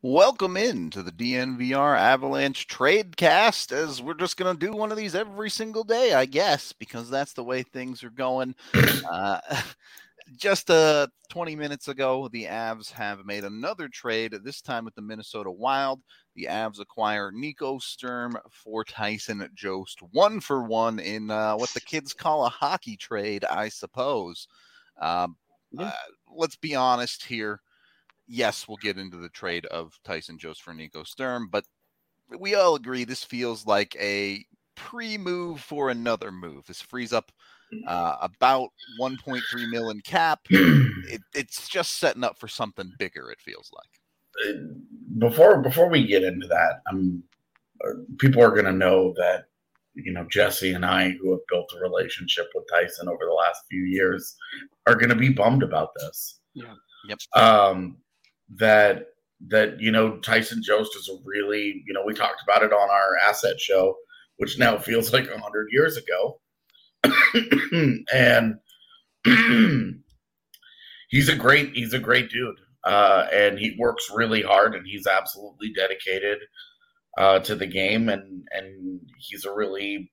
Welcome in to the DNVR Avalanche Tradecast, as we're just going to do one of these every single day, I guess, because that's the way things are going. Just 20 minutes ago, the Avs have made another trade, this time with the Minnesota Wild. The Avs acquire Nico Sturm for Tyson Jost, 1-for-1 in what the kids call a hockey trade, I suppose. Let's be honest here. Yes, we'll get into the trade of Tyson Jost for Nico Sturm, but we all agree this feels like a pre-move for another move. This frees up about 1.3 million cap. It's just setting up for something bigger, it feels like. Before we get into that, people are going to know that, Jesse and I, who have built a relationship with Tyson over the last few years, are going to be bummed about this. Yeah. Yep. That Tyson Jost is a really, we talked about it on our asset show, which now feels like 100 years ago. And he's a great dude. And he works really hard, and he's absolutely dedicated to the game, and he's a really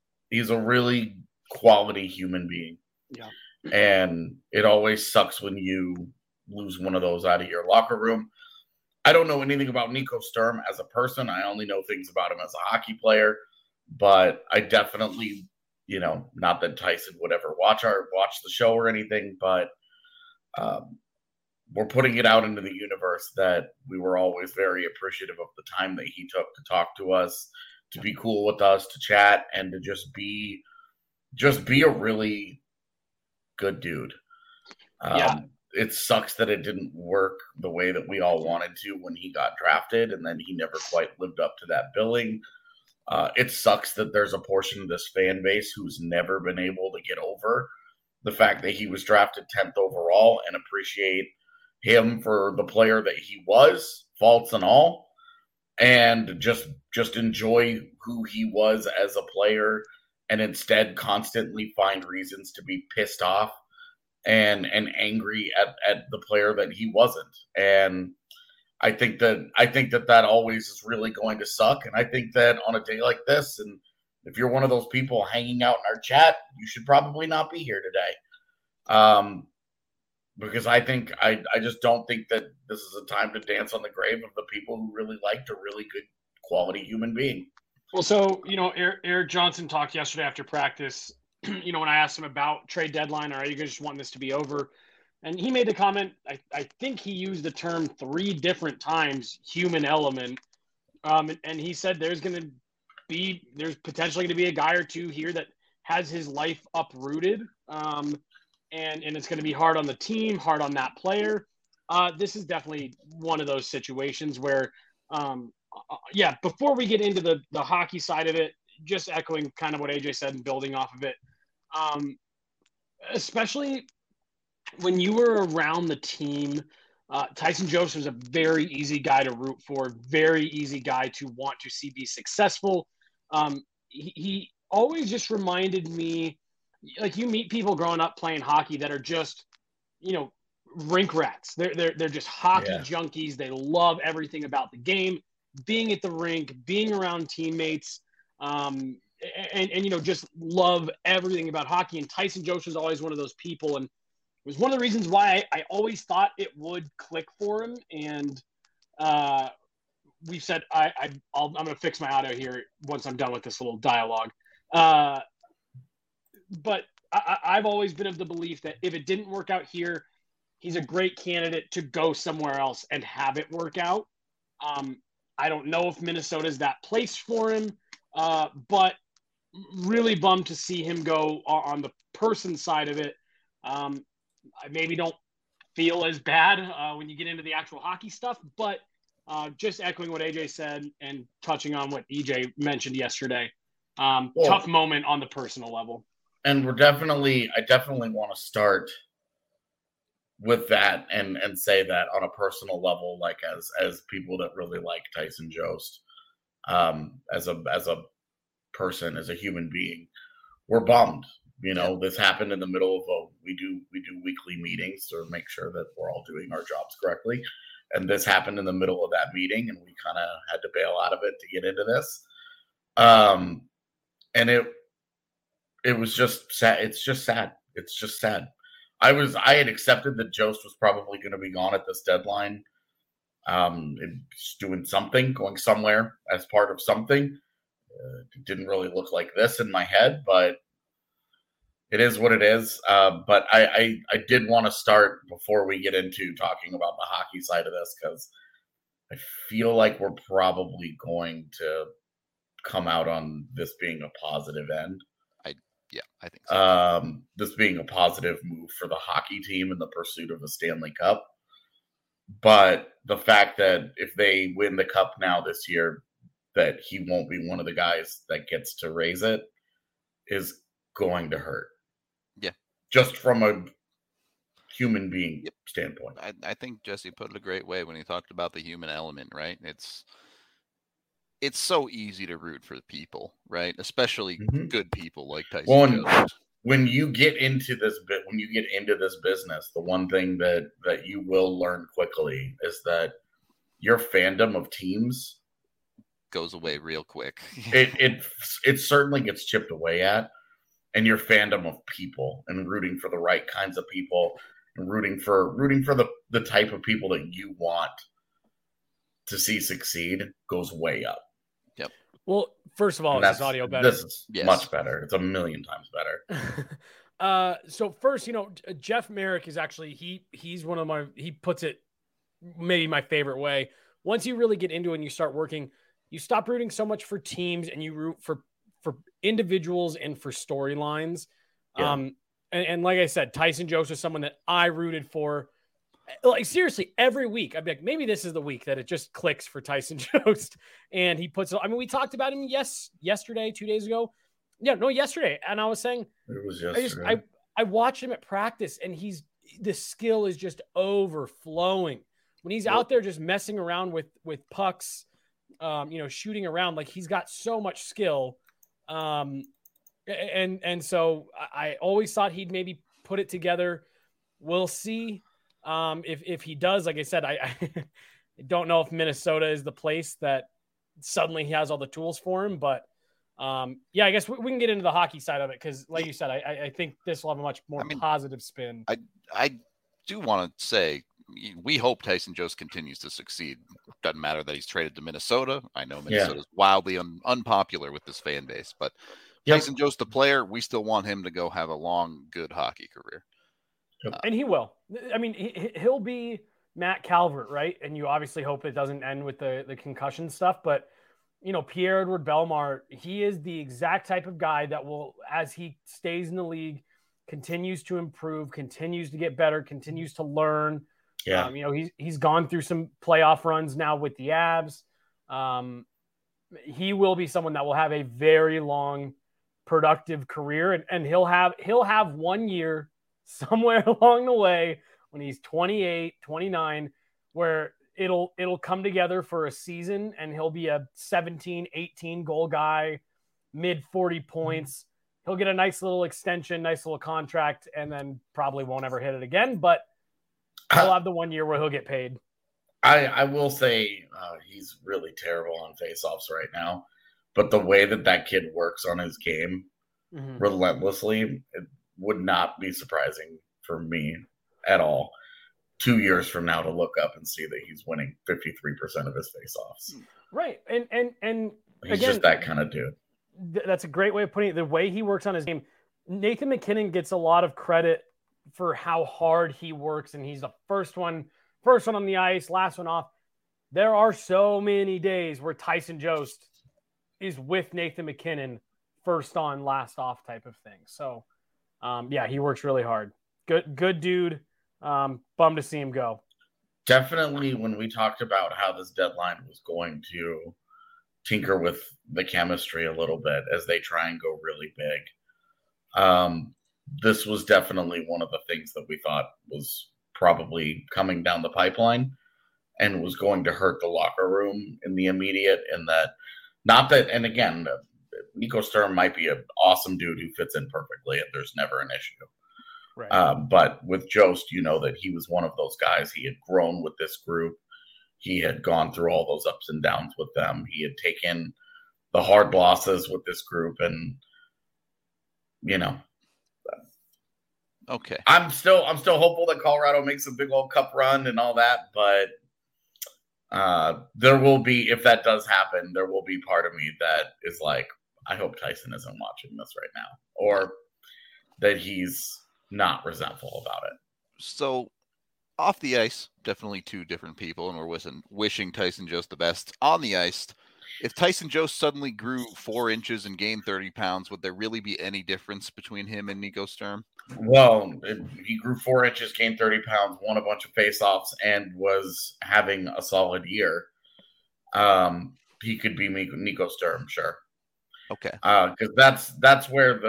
quality human being. Yeah. And it always sucks when you lose one of those out of your locker room. I don't know anything about Nico Sturm as a person. I only know things about him as a hockey player, but I definitely, not that Tyson would ever watch the show or anything, but we're putting it out into the universe that we were always very appreciative of the time that he took to talk to us, to be cool with us, to chat, and to just be a really good dude. It sucks that it didn't work the way that we all wanted to when he got drafted, and then he never quite lived up to that billing. It sucks that there's a portion of this fan base who's never been able to get over the fact that he was drafted 10th overall and appreciate him for the player that he was, faults and all, and just enjoy who he was as a player, and instead constantly find reasons to be pissed off and angry at the player that he wasn't. And I think that always is really going to suck. And I think that on a day like this, and if you're one of those people hanging out in our chat, you should probably not be here today. Because I just don't think that this is a time to dance on the grave of the people who really liked a really good quality human being. Well, so, Eric Johnson talked yesterday after practice, when I asked him about trade deadline, or are you guys just wanting this to be over? And he made the comment, I think he used the term 3 different times, human element. And he said there's potentially going to be a guy or two here that has his life uprooted. And it's going to be hard on the team, hard on that player. This is definitely one of those situations where, before we get into the hockey side of it, just echoing kind of what AJ said and building off of it, especially when you were around the team, Tyson Jost was a very easy guy to root for, very easy guy to want to see be successful. He always just reminded me, like, you meet people growing up playing hockey that are just, rink rats. They're just hockey junkies. They love everything about the game, being at the rink, being around teammates, and just love everything about hockey. And Tyson Jost was always one of those people, and it was one of the reasons why I always thought it would click for him. And we've said I'm going to fix my audio here once I'm done with this little dialogue. But I've always been of the belief that if it didn't work out here, he's a great candidate to go somewhere else and have it work out. I don't know if Minnesota's that place for him, but really bummed to see him go on the person side of it. I maybe don't feel as bad when you get into the actual hockey stuff, but just echoing what AJ said and touching on what EJ mentioned yesterday, tough moment on the personal level. And I definitely want to start with that and say that on a personal level, like as people that really like Tyson Jost, as a person, as a human being, we're bummed. This happened in the middle of we do weekly meetings to make sure that we're all doing our jobs correctly. And this happened in the middle of that meeting, and we kind of had to bail out of it to get into this. And it was just sad. It's just sad. It's just sad. I had accepted that Jost was probably going to be gone at this deadline. Doing something, going somewhere as part of something. It didn't really look like this in my head, but it is what it is. But I did want to start before we get into talking about the hockey side of this, because I feel like we're probably going to come out on this being a positive end. I think so. This being a positive move for the hockey team in the pursuit of a Stanley Cup. But the fact that if they win the cup now this year, that he won't be one of the guys that gets to raise it is going to hurt. Yeah. Just from a human being standpoint. I think Jesse put it a great way when he talked about the human element, right? It's so easy to root for the people, right? Especially good people like Tyson Jost. When you get into this business, the one thing that you will learn quickly is that your fandom of teams goes away real quick. it certainly gets chipped away at, and your fandom of people and rooting for the right kinds of people and rooting for the type of people that you want to see succeed goes way up. Yep. Well, first of all, is this audio better? This is much better. It's a million times better. So first, Jeff Merrick is actually, he's one of he puts it maybe my favorite way. Once you really get into it and you start working, you stop rooting so much for teams and you root for individuals and for storylines. Yeah. And like I said, Tyson Jost is someone that I rooted for. Like, seriously, every week, I'd be like, maybe this is the week that it just clicks for Tyson Jost. And he puts it, we talked about him yesterday, 2 days ago. Yeah, no, yesterday. And I was saying, it was yesterday. I watched him at practice, and the skill is just overflowing. When he's out there just messing around with pucks, shooting around, like, he's got so much skill. And so I always thought he'd maybe put it together. We'll see. If he does, like I said, I don't know if Minnesota is the place that suddenly he has all the tools for him, but I guess we can get into the hockey side of it, because like you said, I think this will have a much more positive spin. I do want to say, we hope Tyson Jost continues to succeed. Doesn't matter that he's traded to Minnesota. I know Minnesota's wildly unpopular with this fan base, but Tyson Jost, the player, we still want him to go have a long, good hockey career. And he will. He'll be Matt Calvert, right? And you obviously hope it doesn't end with the concussion stuff. But, Pierre-Edouard Bellemare, he is the exact type of guy that will, as he stays in the league, continues to improve, continues to get better, continues to learn. Yeah. He's gone through some playoff runs now with the Avs. He will be someone that will have a very long, productive career, and he'll have 1 year somewhere along the way when he's 28, 29, where it'll come together for a season, and he'll be a 17, 18 goal guy, mid 40 points. He'll get a nice little extension, nice little contract, and then probably won't ever hit it again, but he'll have the 1 year where he'll get paid. I will say he's really terrible on faceoffs right now, but the way that kid works on his game relentlessly, it would not be surprising for me at all 2 years from now to look up and see that he's winning 53% of his faceoffs. Right. And he's again, just that kind of dude. That's a great way of putting it. The way he works on his game, Nathan MacKinnon gets a lot of credit for how hard he works, and he's the first one on the ice, last one off. There are so many days where Tyson Jost is with Nathan MacKinnon, first on, last off type of thing. So, he works really hard. Good dude. Bummed to see him go. Definitely, when we talked about how this deadline was going to tinker with the chemistry a little bit as they try and go really big, this was definitely one of the things that we thought was probably coming down the pipeline and was going to hurt the locker room in the immediate. And again, Nico Sturm might be an awesome dude who fits in perfectly, and there's never an issue. Right. But with Jost, that he was one of those guys. He had grown with this group. He had gone through all those ups and downs with them. He had taken the hard losses with this group, and okay. I'm still hopeful that Colorado makes a big old cup run and all that, but there will be, if that does happen, there will be part of me that is like, I hope Tyson isn't watching this right now, or that he's not resentful about it. So off the ice, definitely two different people, and we're wishing Tyson Jost the best. On the ice, if Tyson Jost suddenly grew 4 inches and gained 30 pounds, would there really be any difference between him and Nico Sturm? Well, he grew 4 inches, gained 30 pounds, won a bunch of faceoffs, and was having a solid year. He could be Nico Sturm, sure. Okay. Because that's where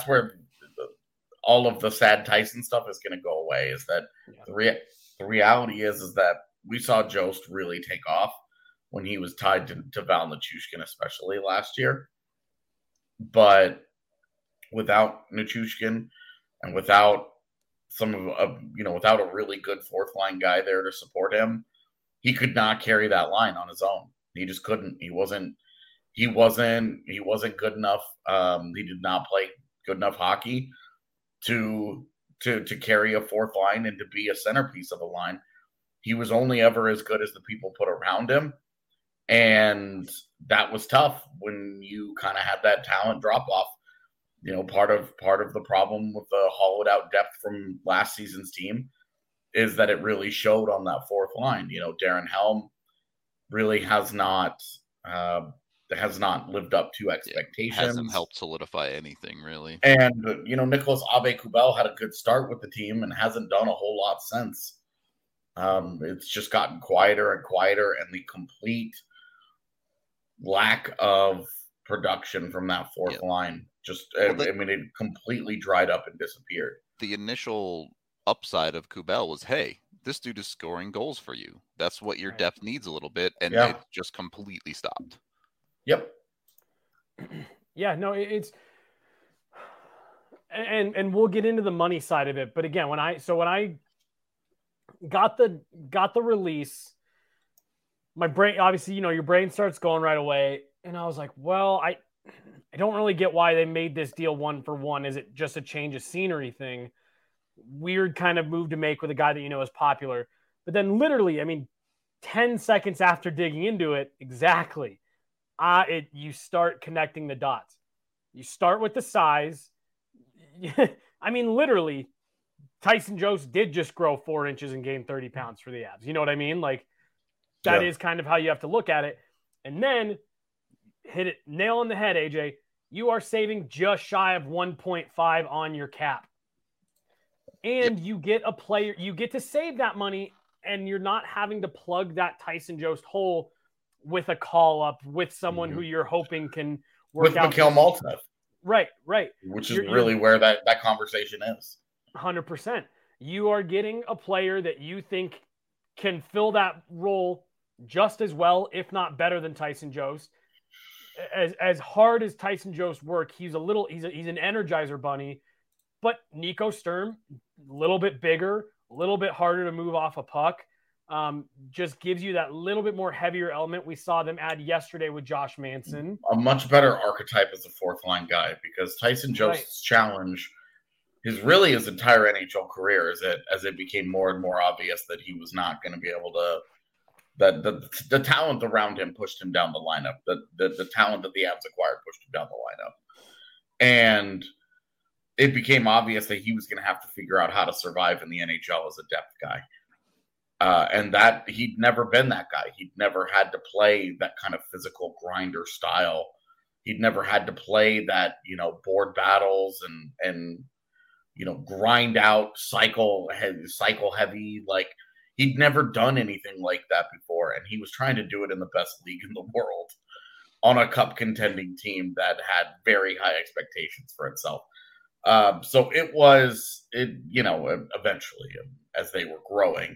all of the sad Tyson stuff is going to go away. Is that the reality is that we saw Jost really take off when he was tied to Val Nichushkin, especially last year. But without Nichushkin and without without a really good fourth line guy there to support him, he could not carry that line on his own. He just couldn't. He wasn't good enough. He did not play good enough hockey to carry a fourth line and to be a centerpiece of a line. He was only ever as good as the people put around him. And that was tough when you kind of had that talent drop off. Part of the problem with the hollowed out depth from last season's team is that it really showed on that fourth line. Darren Helm really has not lived up to expectations. Hasn't helped solidify anything, really. And, Nicholas Aube-Kubel had a good start with the team and hasn't done a whole lot since. It's just gotten quieter and quieter, and the complete lack of production from that fourth line it completely dried up and disappeared. The initial upside of Kubel was, hey, this dude is scoring goals for you. That's what your depth needs a little bit, and it just completely stopped. Yep. Yeah, no, it's and we'll get into the money side of it, but again, when I got the release, my brain, obviously, your brain starts going right away, and I was like, well, I don't really get why they made this deal 1-for-1. Is it just a change of scenery thing? Weird kind of move to make with a guy that is popular. But then literally, 10 seconds after digging into it, exactly, you start connecting the dots. You start with the size. Literally, Tyson Jost did just grow 4 inches and gain 30 pounds for the Avs. You know what I mean? Like, that is kind of how you have to look at it. And then hit it nail on the head, AJ. You are saving just shy of 1.5 on your cap. And you get a player, you get to save that money, and you're not having to plug that Tyson Jost hole with a call up with someone who you're hoping can work with out. Mikhail Maltsev. Right. Which is really where that conversation is. 100%. You are getting a player that you think can fill that role just as well, if not better than Tyson Jost. As hard as Tyson Jost work, he's an energizer bunny. But Nico Sturm, a little bit bigger, a little bit harder to move off a puck, just gives you that little bit more heavier element. We saw them add yesterday with Josh Manson. A much better archetype as a fourth line guy, because Tyson Jost's challenge, his entire NHL career, as it became more and more obvious that he was not going to be able to. That the talent around him pushed him down the lineup. The talent that the Avs acquired pushed him down the lineup, and it became obvious that he was going to have to figure out how to survive in the NHL as a depth guy. And that he'd never been that guy. He'd never had to play that kind of physical grinder style. He'd never had to play that, board battles and grind out cycle heavy. Like, he'd never done anything like that before. And he was trying to do it in the best league in the world on a cup contending team that had very high expectations for itself. So eventually, as they were growing,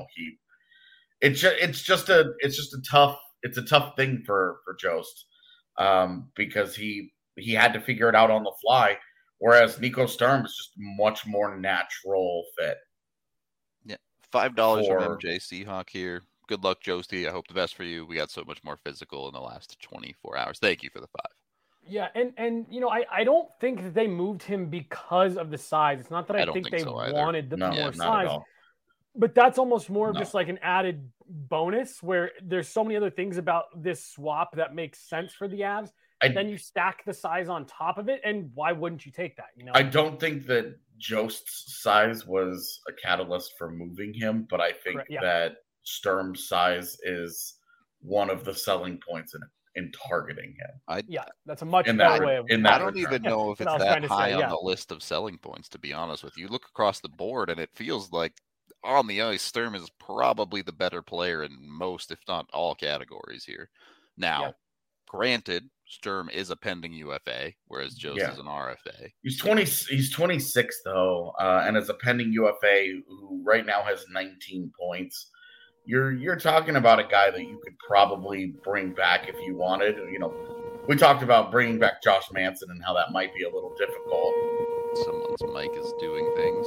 it's just a tough thing for Jost, because he had to figure it out on the fly, whereas Nico Sturm is just much more natural fit. Yeah, $5 from MJ Seahawk here. Good luck, Joesty. I hope the best for you. We got so much more physical in the last 24 hours. Thank you for the 5. Yeah, and I don't think that they moved him because of the size. It's not that I think they so wanted the more size, but that's almost more of just like an added bonus where there's so many other things about this swap that makes sense for the Avs. Then you stack the size on top of it, and why wouldn't you take that? I don't think that Jost's size was a catalyst for moving him, but I think that Sturm's size is one of the selling points in targeting him. That's a much better way of. I don't even know if it's that high on the list of selling points. To be honest with you, look across the board, and it feels like on the ice, Sturm is probably the better player in most, if not all, categories here. Now, granted, Sturm is a pending UFA, whereas Jost is an RFA. He's 26 though, and is a pending UFA who right now has 19 points. You're talking about a guy that you could probably bring back if you wanted. We talked about bringing back Josh Manson and how that might be a little difficult. Someone's mic is doing things.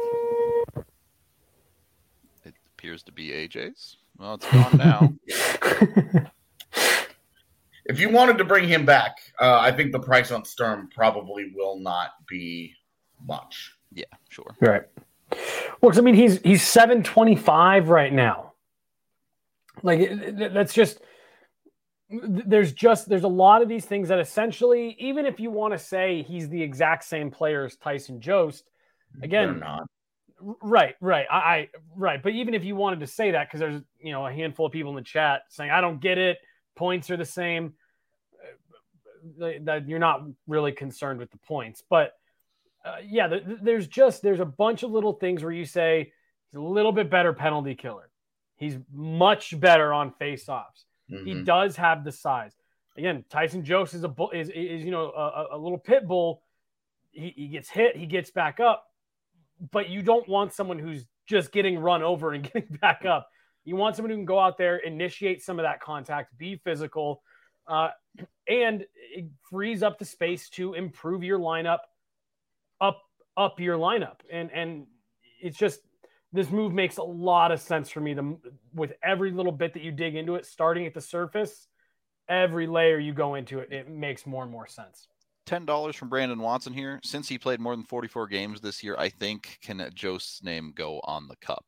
It appears to be AJ's. Well, it's gone now. If you wanted to bring him back, I think the price on Sturm probably will not be much. Yeah, sure. Right. Well, I mean, he's $725 right now. Like that's just there's a lot of these things that essentially, even if you want to say he's the exact same player as Tyson Jost, again, they're not. Right. But even if you wanted to say that, because there's a handful of people in the chat saying I don't get it, points are the same, that you're not really concerned with the points, but there's a bunch of little things where you say he's a little bit better penalty killer. He's much better on face-offs. Mm-hmm. He does have the size. Again, Tyson Jost is a little pit bull. He gets hit, he gets back up, but you don't want someone who's just getting run over and getting back up. You want someone who can go out there, initiate some of that contact, be physical, and it frees up the space to improve your lineup, up your lineup. And it's just, this move makes a lot of sense for me. With every little bit that you dig into it, starting at the surface, every layer you go into it, it makes more and more sense. $10 from Brandon Watson here. Since he played more than 44 games this year, I think can Jost's name go on the cup?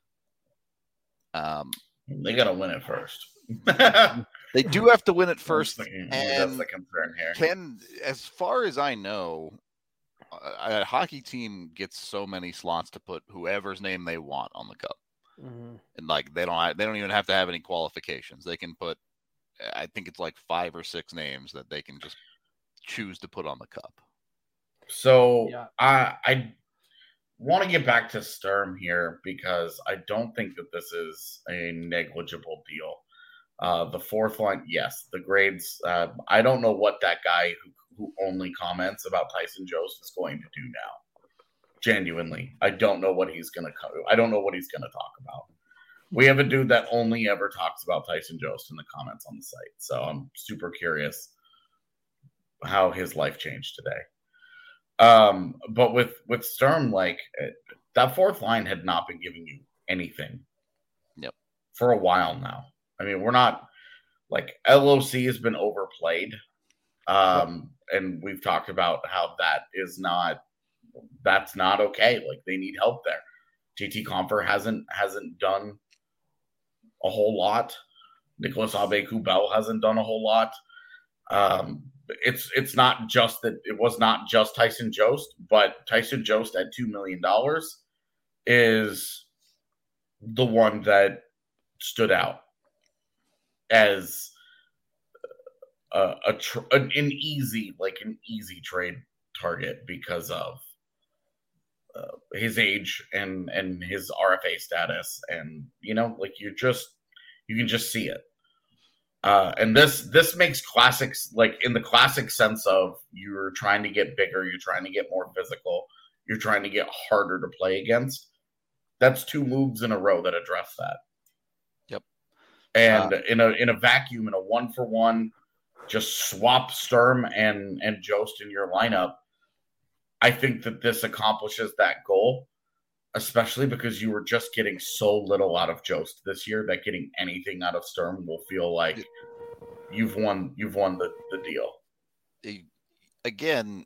They got to win it first. They do have to win it first. That's the concern here. As far as I know, a hockey team gets so many slots to put whoever's name they want on the cup. Mm-hmm. And they don't even have to have any qualifications. They can put, I think it's 5 or 6 names that they can just choose to put on the cup. So I want to get back to Sturm here because I don't think that this is a negligible deal. The fourth line, yes, the grades. I don't know what that guy who only comments about Tyson Jost is going to do now. Genuinely, I don't know what he's going to cover. I don't know what he's going to talk about. We have a dude that only ever talks about Tyson Jost in the comments on the site, so I'm super curious how his life changed today. But with Sturm, that fourth line had not been giving you anything. Yep. For a while now. I mean, we're not LOC has been overplayed. And we've talked about how that's not okay. They need help there. JT Compher hasn't done a whole lot. Nicolas Aube-Kubel hasn't done a whole lot. It's not just that it was not just Tyson Jost, but Tyson Jost at $2 million is the one that stood out as an easy trade target because of his age and his RFA status, and you can just see it. And this makes classics, in the classic sense of you're trying to get bigger, you're trying to get more physical, you're trying to get harder to play against. That's 2 moves in a row that address that. Yep. And in a vacuum, in a 1-for-1, just swap Sturm and Jost in your lineup. I think that this accomplishes that goal. especially because you were just getting so little out of Jost this year that getting anything out of Sturm will feel like you've won the deal. Again,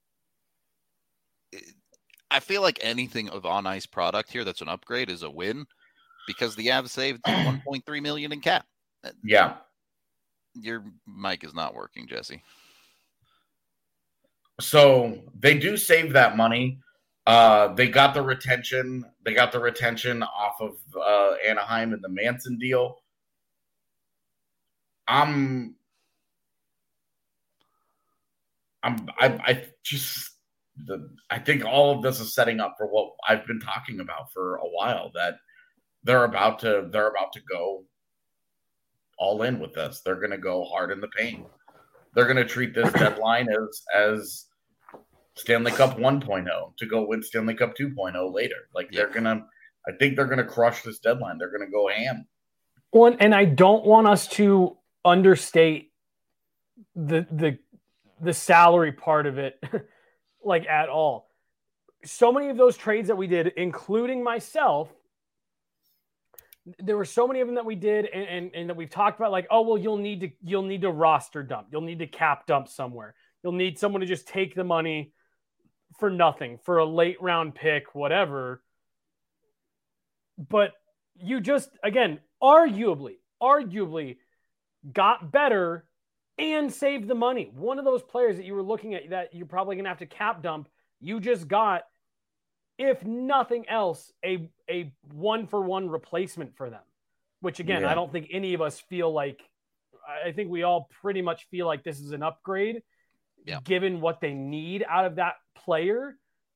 I feel like anything of on ice product here that's an upgrade is a win because the Avs saved $1.3 million in cap. Yeah. Your mic is not working, Jesse. So they do save that money. They got the retention. They got the retention off of Anaheim and the Manson deal. I think all of this is setting up for what I've been talking about for a while, that they're about to go all in with this. They're going to go hard in the paint. They're going to treat this deadline as Stanley Cup 1.0 to go win Stanley Cup 2.0 later. Like I think they're going to crush this deadline. They're going to go ham. Well, and I don't want us to understate the salary part of it like at all. So many of those trades that we did, including myself, there were so many of them that we did and that we've talked about, like, oh, well, you'll need to roster dump. You'll need to cap dump somewhere. You'll need someone to just take the money for nothing, for a late round pick, whatever. But you just, again, arguably got better and saved the money. One of those players that you were looking at that you're probably going to have to cap dump, you just got, if nothing else, a 1-for-1 replacement for them, which again, I don't think any of us feel like, I think we all pretty much feel like this is an upgrade given what they need out of that player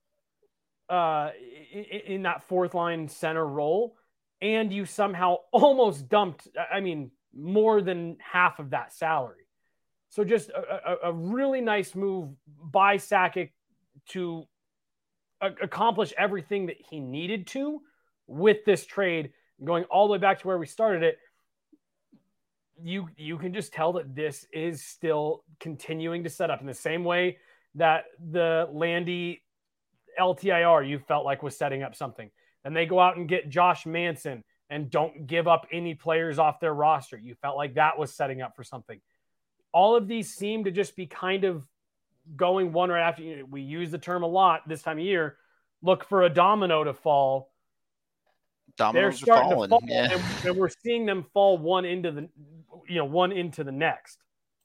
in that fourth line center role. And you somehow almost dumped, more than half of that salary. So just a really nice move by Sakic to accomplish everything that he needed to with this trade, going all the way back to where we started it. You can just tell that this is still continuing to set up in the same way that the Landy LTIR you felt like was setting up something. And they go out and get Josh Manson and don't give up any players off their roster. You felt like that was setting up for something. All of these seem to just be kind of going one right after. We use the term a lot this time of year. Look for a domino to fall. They're starting to fall, and we're seeing them fall one into the next.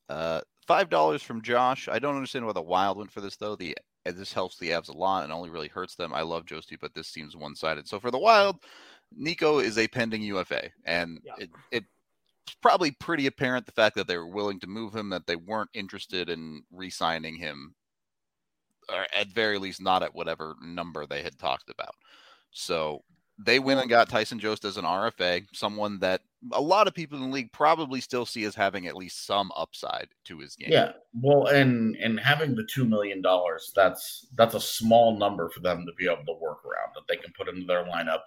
$5 from Josh. I don't understand why the Wild went for this though. This helps the Avs a lot and only really hurts them. I love Josti, but this seems one-sided. So for the Wild, Nico is a pending UFA, and it's probably pretty apparent the fact that they were willing to move him, that they weren't interested in re-signing him, or at very least not at whatever number they had talked about. So they went and got Tyson Jost as an RFA, someone that a lot of people in the league probably still see as having at least some upside to his game. Yeah, well, and having the $2 million, that's a small number for them to be able to work around, that they can put into their lineup,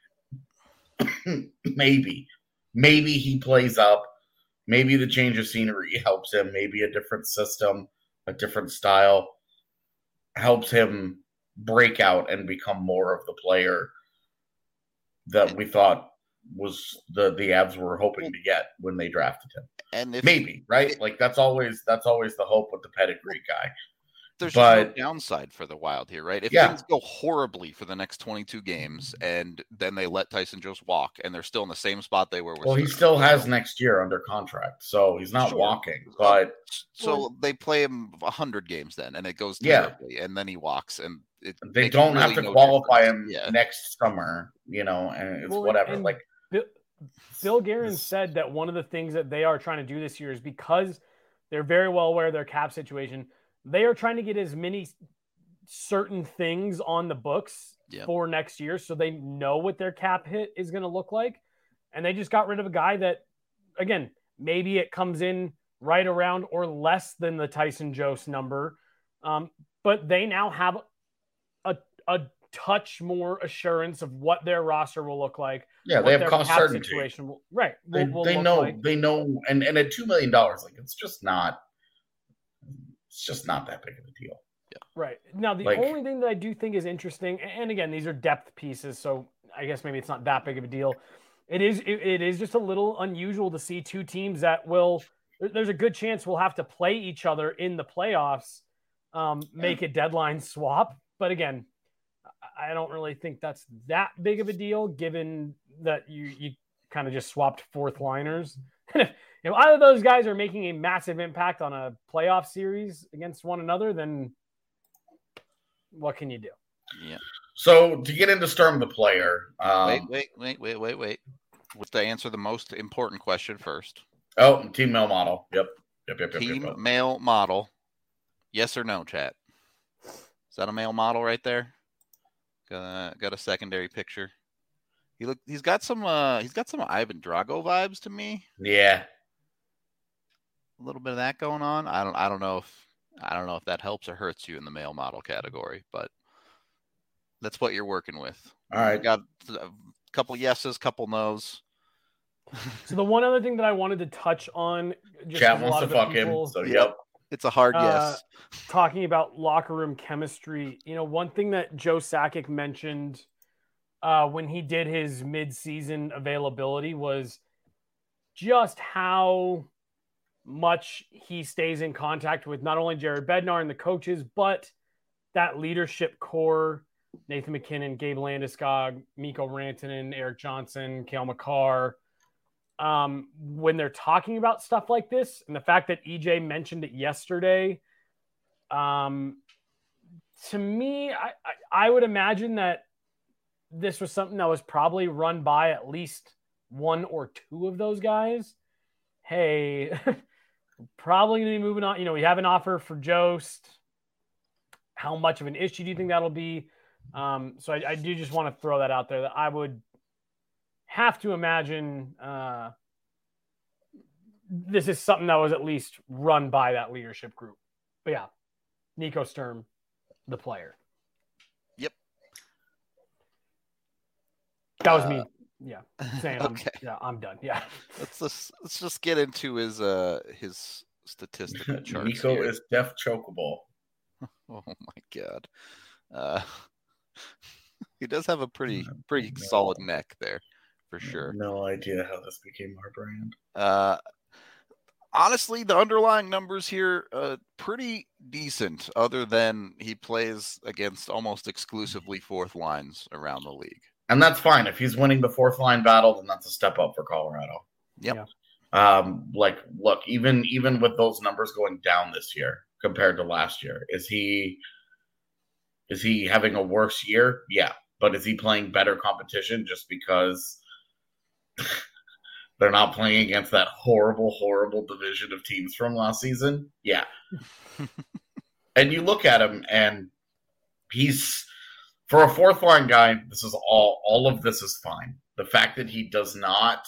and maybe he plays up. Maybe the change of scenery helps him. Maybe a different system, a different style helps him break out and become more of the player that we thought was the Avs were hoping to get when they drafted him. And maybe, right? Like that's always the hope with the pedigree guy. There's no downside for the Wild here, right? If things go horribly for the next 22 games and then they let Tyson Jost walk and they're still in the same spot they were. Well, he still has next year under contract, so he's not walking. But so they play him 100 games then, and it goes terribly, and then he walks, and they don't have to qualify him next summer, and it's whatever. And Bill Guerin said that one of the things that they are trying to do this year is because they're very well aware of their cap situation. They are trying to get as many certain things on the books for next year so they know what their cap hit is going to look like. And they just got rid of a guy that, again, maybe it comes in right around or less than the Tyson Jost number. But they now have a touch more assurance of what their roster will look like. Yeah, they have cost certainty. Right. They know, and at $2 million, like it's just not that big of a deal. Right. Now, the only thing that I do think is interesting, and again, these are depth pieces, so I guess maybe it's not that big of a deal. It is just a little unusual to see two teams that there's a good chance we'll have to play each other in the playoffs, make a deadline swap. But again, I don't really think that's that big of a deal, given that you kind of just swapped fourth liners. If either of those guys are making a massive impact on a playoff series against one another, then what can you do? Yeah. So to get into Sturm the player, wait. Let's answer the most important question first. Oh, team male model. Yep. Team male model. Yes or no, chat? Is that a male model right there? Got a secondary picture. He's got some Ivan Drago vibes to me. Yeah. A little bit of that going on. I don't know if that helps or hurts you in the male model category, but that's what you're working with. All right. Got a couple yeses, couple nos. So the one other thing that I wanted to touch on, chat wants to fuck him. So yep. It's a hard yes. Talking about locker room chemistry, one thing that Joe Sakic mentioned when he did his mid-season availability was just how much he stays in contact with not only Jared Bednar and the coaches, but that leadership core, Nathan McKinnon, Gabe Landeskog, Mikko Rantanen, Eric Johnson, Cale Makar. When they're talking about stuff like this, and the fact that EJ mentioned it yesterday, to me, I would imagine that this was something that was probably run by at least one or two of those guys. Hey, probably going to be moving on. We have an offer for Jost. How much of an issue do you think that'll be? So I do just want to throw that out there, that I would have to imagine this is something that was at least run by that leadership group. But yeah, Nico Sturm, the player. Yep. That was me. Yeah. Saying okay. I'm done. Yeah. Let's just get into his statistical charts. Nico here. is def chokeable. Oh my god. He does have a pretty solid neck there, for sure. No idea how this became our brand. Honestly, the underlying numbers here pretty decent, other than he plays against almost exclusively fourth lines around the league. And that's fine. If he's winning the fourth line battle, then that's a step up for Colorado. Yep. Yeah. Look, even with those numbers going down this year compared to last year, is he having a worse year? Yeah. But is he playing better competition just because they're not playing against that horrible, horrible division of teams from last season? Yeah. And you look at him, and he's, for a fourth line guy, this is all of this is fine. The fact that he does not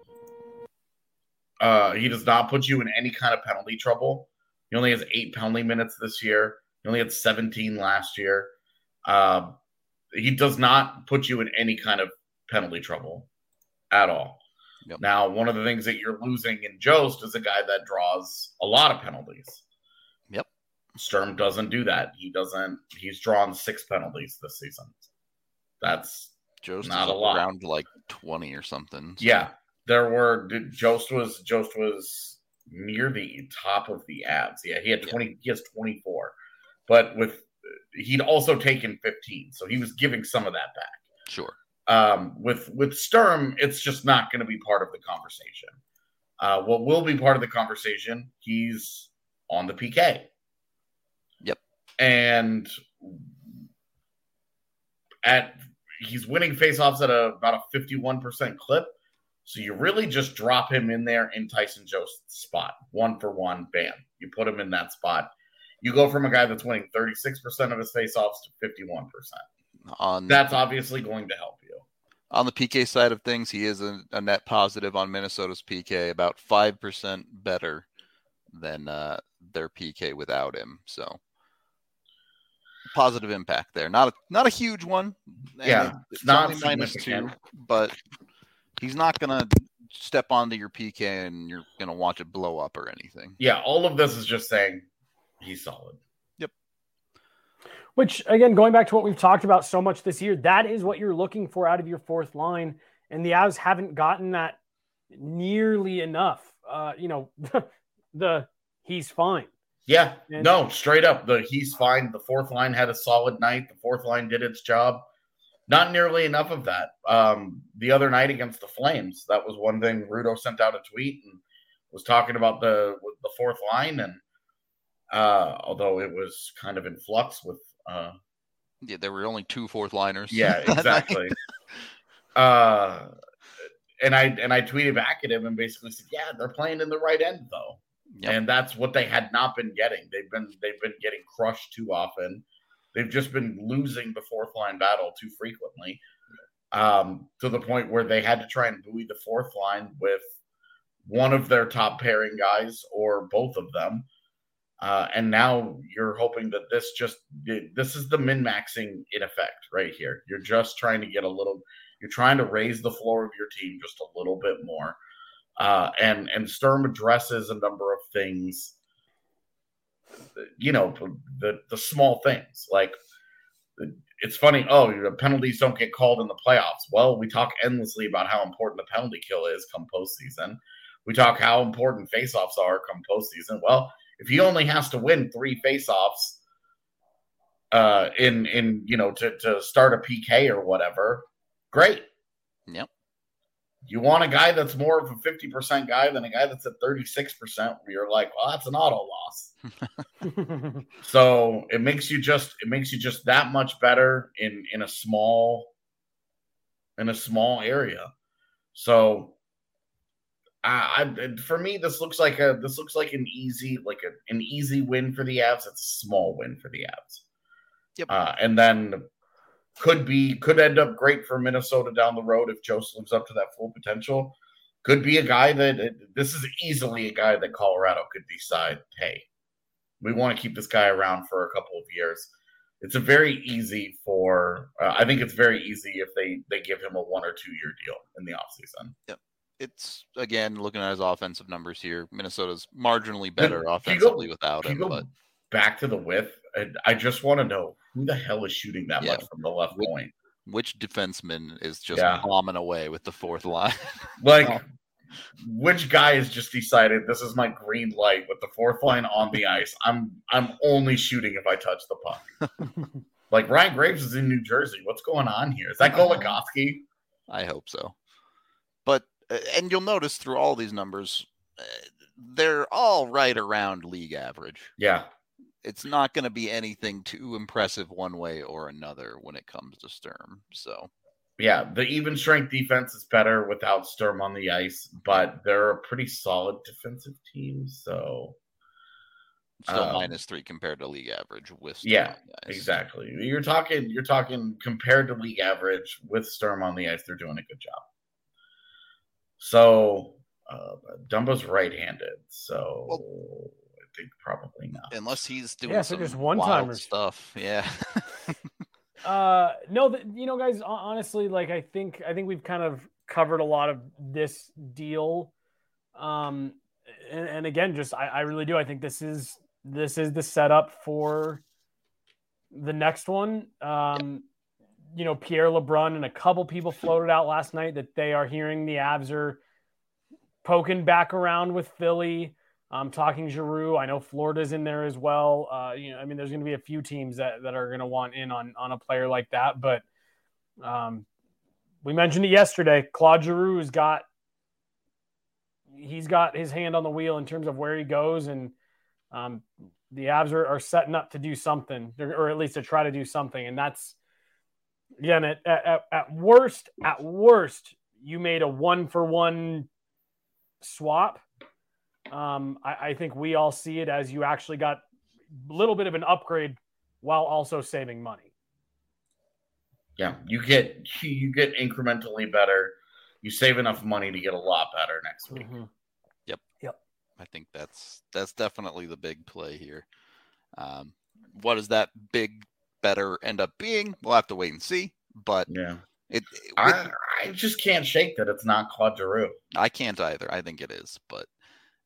put you in any kind of penalty trouble. He only has 8 penalty minutes this year. He only had 17 last year. He does not put you in any kind of penalty trouble at all. Yep. Now, one of the things that you're losing in Jost is a guy that draws a lot of penalties. Yep. Sturm doesn't do that. He's drawn 6 penalties this season. That's Jost not is a lot. Around like 20 or something. So. Yeah. Jost was near the top of the abs. Yeah, he had 20. Yeah. He has 24. But he'd also taken 15, so he was giving some of that back. Sure. With Sturm, it's just not going to be part of the conversation. What will be part of the conversation? He's on the PK. Yep. And he's winning faceoffs at about a 51% clip. So you really just drop him in there in Tyson Jost's spot. 1-for-1, bam. You put him in that spot. You go from a guy that's winning 36% of his faceoffs to 51%. That's obviously going to help you. On the PK side of things, he is a net positive on Minnesota's PK, about 5% better than their PK without him. So positive impact there. Not a huge one. Yeah, it's not -2, but he's not going to step onto your PK and you're going to watch it blow up or anything. Yeah, all of this is just saying he's solid. Yep. Which, again, going back to what we've talked about so much this year, that is what you're looking for out of your fourth line. And the Avs haven't gotten that nearly enough. He's fine. Yeah, no, straight up. He's fine. The fourth line had a solid night. The fourth line did its job. Not nearly enough of that. The other night against the Flames, that was one thing. Rudo sent out a tweet and was talking about the fourth line, and although it was kind of in flux with. There were only 2 fourth liners. Yeah, exactly. And I tweeted back at him and basically said, "Yeah, they're playing in the right end though." Yep. And that's what they had not been getting. They've been getting crushed too often. They've just been losing the fourth line battle too frequently, to the point where they had to try and buoy the fourth line with one of their top pairing guys or both of them. And now you're hoping that this is the min-maxing in effect right here. You're just trying to get you're trying to raise the floor of your team just a little bit more. And Sturm addresses a number of things, the small things. Like, it's funny, penalties don't get called in the playoffs. Well, we talk endlessly about how important the penalty kill is come postseason. We talk how important faceoffs are come postseason. Well, if he only has to win 3 faceoffs to start a PK or whatever, great. Yep. You want a guy that's more of a 50% guy than a guy that's at 36%, where you're like, well, that's an auto loss. So it makes you just that much better in a small area. So for me, this looks like an easy win for the Avs. It's a small win for the Avs. Yep. And then could end up great for Minnesota down the road if Jost lives up to that full potential. Could be a guy this is easily a guy that Colorado could decide, hey, we want to keep this guy around for a couple of years. It's very easy I think it's very easy if they give him a 1 or 2 year deal in the offseason. Yep. It's, again, looking at his offensive numbers here, Minnesota's marginally better offensively without him. But back to the width, I just want to know who the hell is shooting that much from the left point. Which defenseman is just bombing away with the fourth line? Which guy has just decided this is my green light with the fourth line on the ice? I'm only shooting if I touch the puck. Like, Ryan Graves is in New Jersey. What's going on here? Is that Goligoski? I hope so. But and you'll notice through all these numbers, they're all right around league average. Yeah. It's not going to be anything too impressive one way or another when it comes to Sturm. So, yeah, the even strength defense is better without Sturm on the ice, but they're a pretty solid defensive team. So, still -3 compared to league average with Sturm on the ice. Exactly. You're talking compared to league average with Sturm on the ice, they're doing a good job. So, Dumbo's right-handed, so I think probably not. Unless he's doing some just wild stuff. Yeah. No, guys, honestly, like, I think we've kind of covered a lot of this deal. And again, just I really do. I think this is the setup for the next one. Pierre LeBrun and a couple people floated out last night that they are hearing the Avs are poking back around with Philly. Talking Giroux. I know Florida's in there as well. There's going to be a few teams that are going to want in on a player like that. But we mentioned it yesterday. Claude Giroux he's got his hand on the wheel in terms of where he goes. And the Avs are setting up to do something, or at least to try to do something. And that's, again, at worst, you made a 1-for-1 swap. I think we all see it as you actually got a little bit of an upgrade while also saving money. Yeah, you get incrementally better. You save enough money to get a lot better next week. Mm-hmm. Yep. I think that's definitely the big play here. What does that big better end up being? We'll have to wait and see. But yeah, I just can't shake that it's not Claude Giroux. I can't either. I think it is, but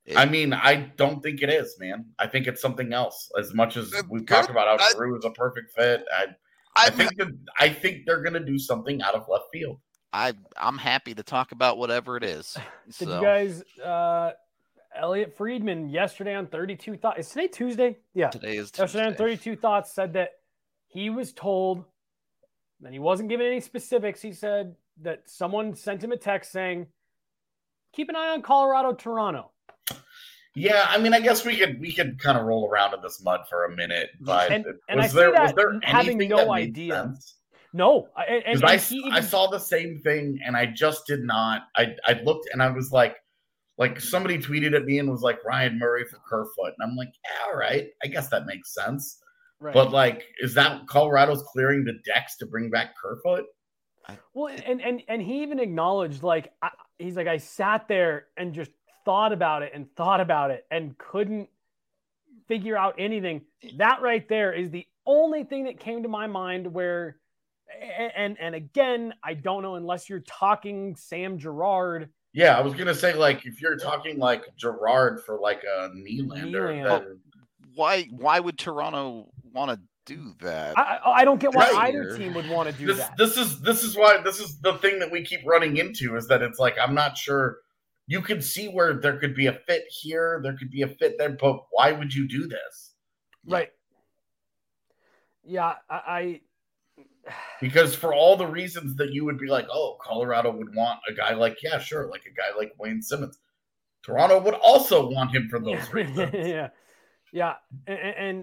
I mean, I don't think it is, man. I think it's something else. As much as we've talked about how Giroux is a perfect fit, I think they're going to do something out of left field. I'm happy to talk about whatever it is. Did you guys? Elliot Friedman yesterday on 32 Thoughts. Is today Tuesday? Yeah, today is Tuesday. Yesterday on 32 Thoughts said that he was told, and he wasn't given any specifics. He said that someone sent him a text saying, "Keep an eye on Colorado, Toronto." Yeah, I mean, I guess we could kind of roll around in this mud for a minute, but was there having no idea? Sense? No, I saw the same thing, and I just did not. I looked, and I was like somebody tweeted at me and was like, Ryan Murray for Kerfoot, and I'm like, yeah, all right, I guess that makes sense. Right. But like, is that Colorado's clearing the decks to bring back Kerfoot? Well, and he even acknowledged, like, he's like, I sat there and just thought about it and couldn't figure out anything. That right there is the only thing that came to my mind where, and again, I don't know unless you're talking Sam Girard. Yeah, I was going to say, like, if you're talking like Girard for like a Nylander. Why would Toronto want to do that? I don't get why either team would want to do that. This is the thing that we keep running into is that it's like, I'm not sure. You could see where there could be a fit here, there could be a fit there, but why would you do this? Right. Yeah, because for all the reasons that you would be like, oh, Colorado would want a guy like, yeah, sure, like a guy like Wayne Simmons. Toronto would also want him for those reasons. Yeah. And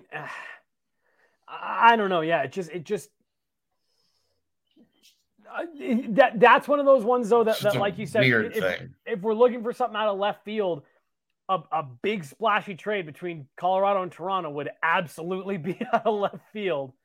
I don't know. Yeah, it just that's one of those ones though that like you said, if we're looking for something out of left field, a big splashy trade between Colorado and Toronto would absolutely be out of left field.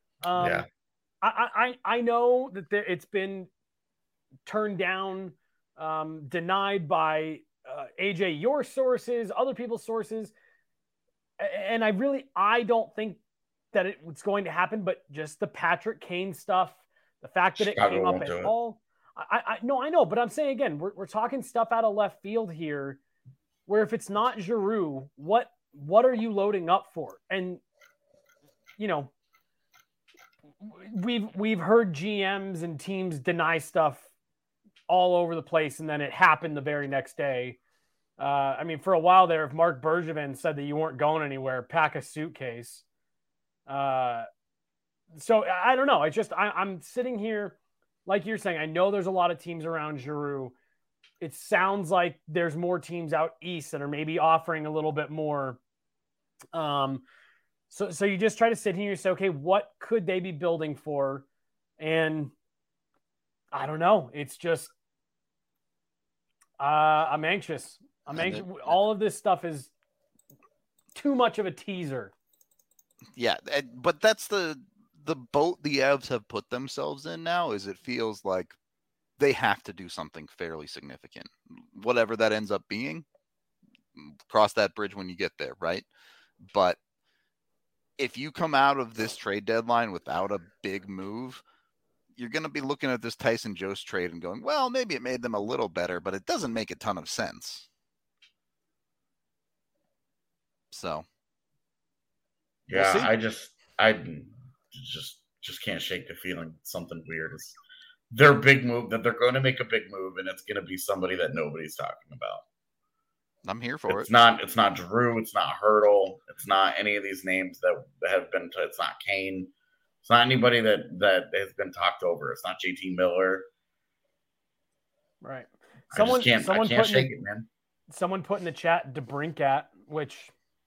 I know that it's been turned down, denied by AJ, your sources, other people's sources, and I don't think that it's going to happen. But just the Patrick Kane stuff. The fact that it came up at all, I know, but I'm saying again, we're talking stuff out of left field here, where if it's not Giroux, what are you loading up for? And you know, we've heard GMs and teams deny stuff all over the place, and then it happened the very next day. I mean, for a while there, if Mark Bergevin said that you weren't going anywhere, pack a suitcase. So I don't know. It's just I'm sitting here, like you're saying. I know there's a lot of teams around Giroux. It sounds like there's more teams out east that are maybe offering a little bit more. So you just try to sit here and say, okay, what could they be building for? And I don't know. It's just I'm anxious. All of this stuff is too much of a teaser. Yeah, but that's the boat the Avs have put themselves in now. Is it feels like they have to do something fairly significant, whatever that ends up being. Cross that bridge when you get there, right? But if you come out of this trade deadline without a big move, you're going to be looking at this Tyson Jost trade and going, well, maybe it made them a little better, but it doesn't make a ton of sense. So, yeah, we'll I just can't shake the feeling something weird is their big move, that they're going to make a big move, and it's going to be somebody that nobody's talking about. I'm here for it. It's not Drew. It's not Hurdle. It's not any of these names that have been. It's not Kane. It's not anybody that has been talked over. It's not JT Miller. Right. I can't shake it, man. Someone put in the chat DeBrincat, which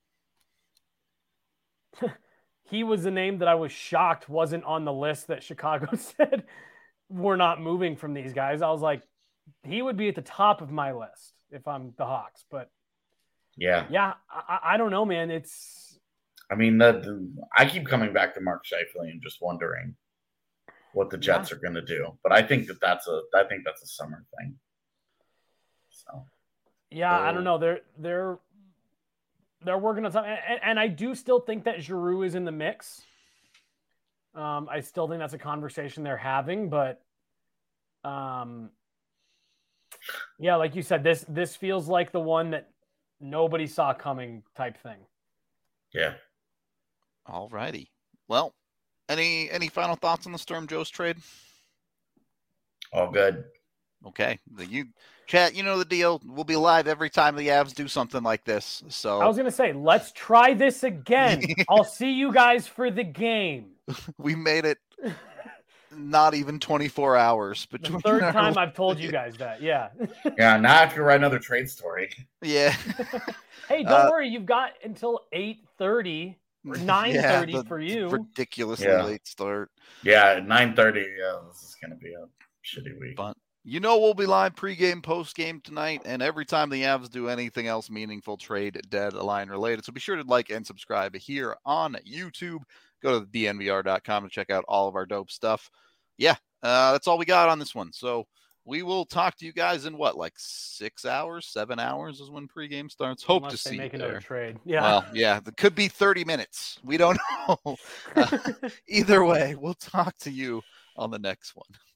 he was the name that I was shocked wasn't on the list that Chicago said we're not moving from these guys. I was like, he would be at the top of my list if I'm the Hawks. But yeah, I don't know, man. I mean, I keep coming back to Mark Scheifele and just wondering what the Jets are going to do. But I think that's a summer thing. So yeah, I don't know. They're working on something, and I do still think that Giroux is in the mix. I still think that's a conversation they're having, but yeah, like you said, this feels like the one that nobody saw coming type thing. Yeah. All righty. Well, any final thoughts on the Sturm Jost trade? All good. Okay. Chat, you know the deal. We'll be live every time the Avs do something like this. So I was going to say, let's try this again. I'll see you guys for the game. We made it not even 24 hours between. The third time I've told you guys that. Yeah. Yeah. Now I have to write another trade story. Yeah. Hey, don't worry. You've got until 8:30 or 9:30 for you. Ridiculously late start. Yeah. 9:30. Yeah. This is going to be a shitty week. But we'll be live pregame, postgame tonight, and every time the Avs do anything else meaningful, trade deadline related. So be sure to like and subscribe here on YouTube. Go to dnvr.com to check out all of our dope stuff. Yeah, that's all we got on this one. So we will talk to you guys in 6 hours, 7 hours is when pregame starts. Hope Unless to they see make you another there. trade. Yeah. Well, yeah, it could be 30 minutes. We don't know. Either way, we'll talk to you on the next one.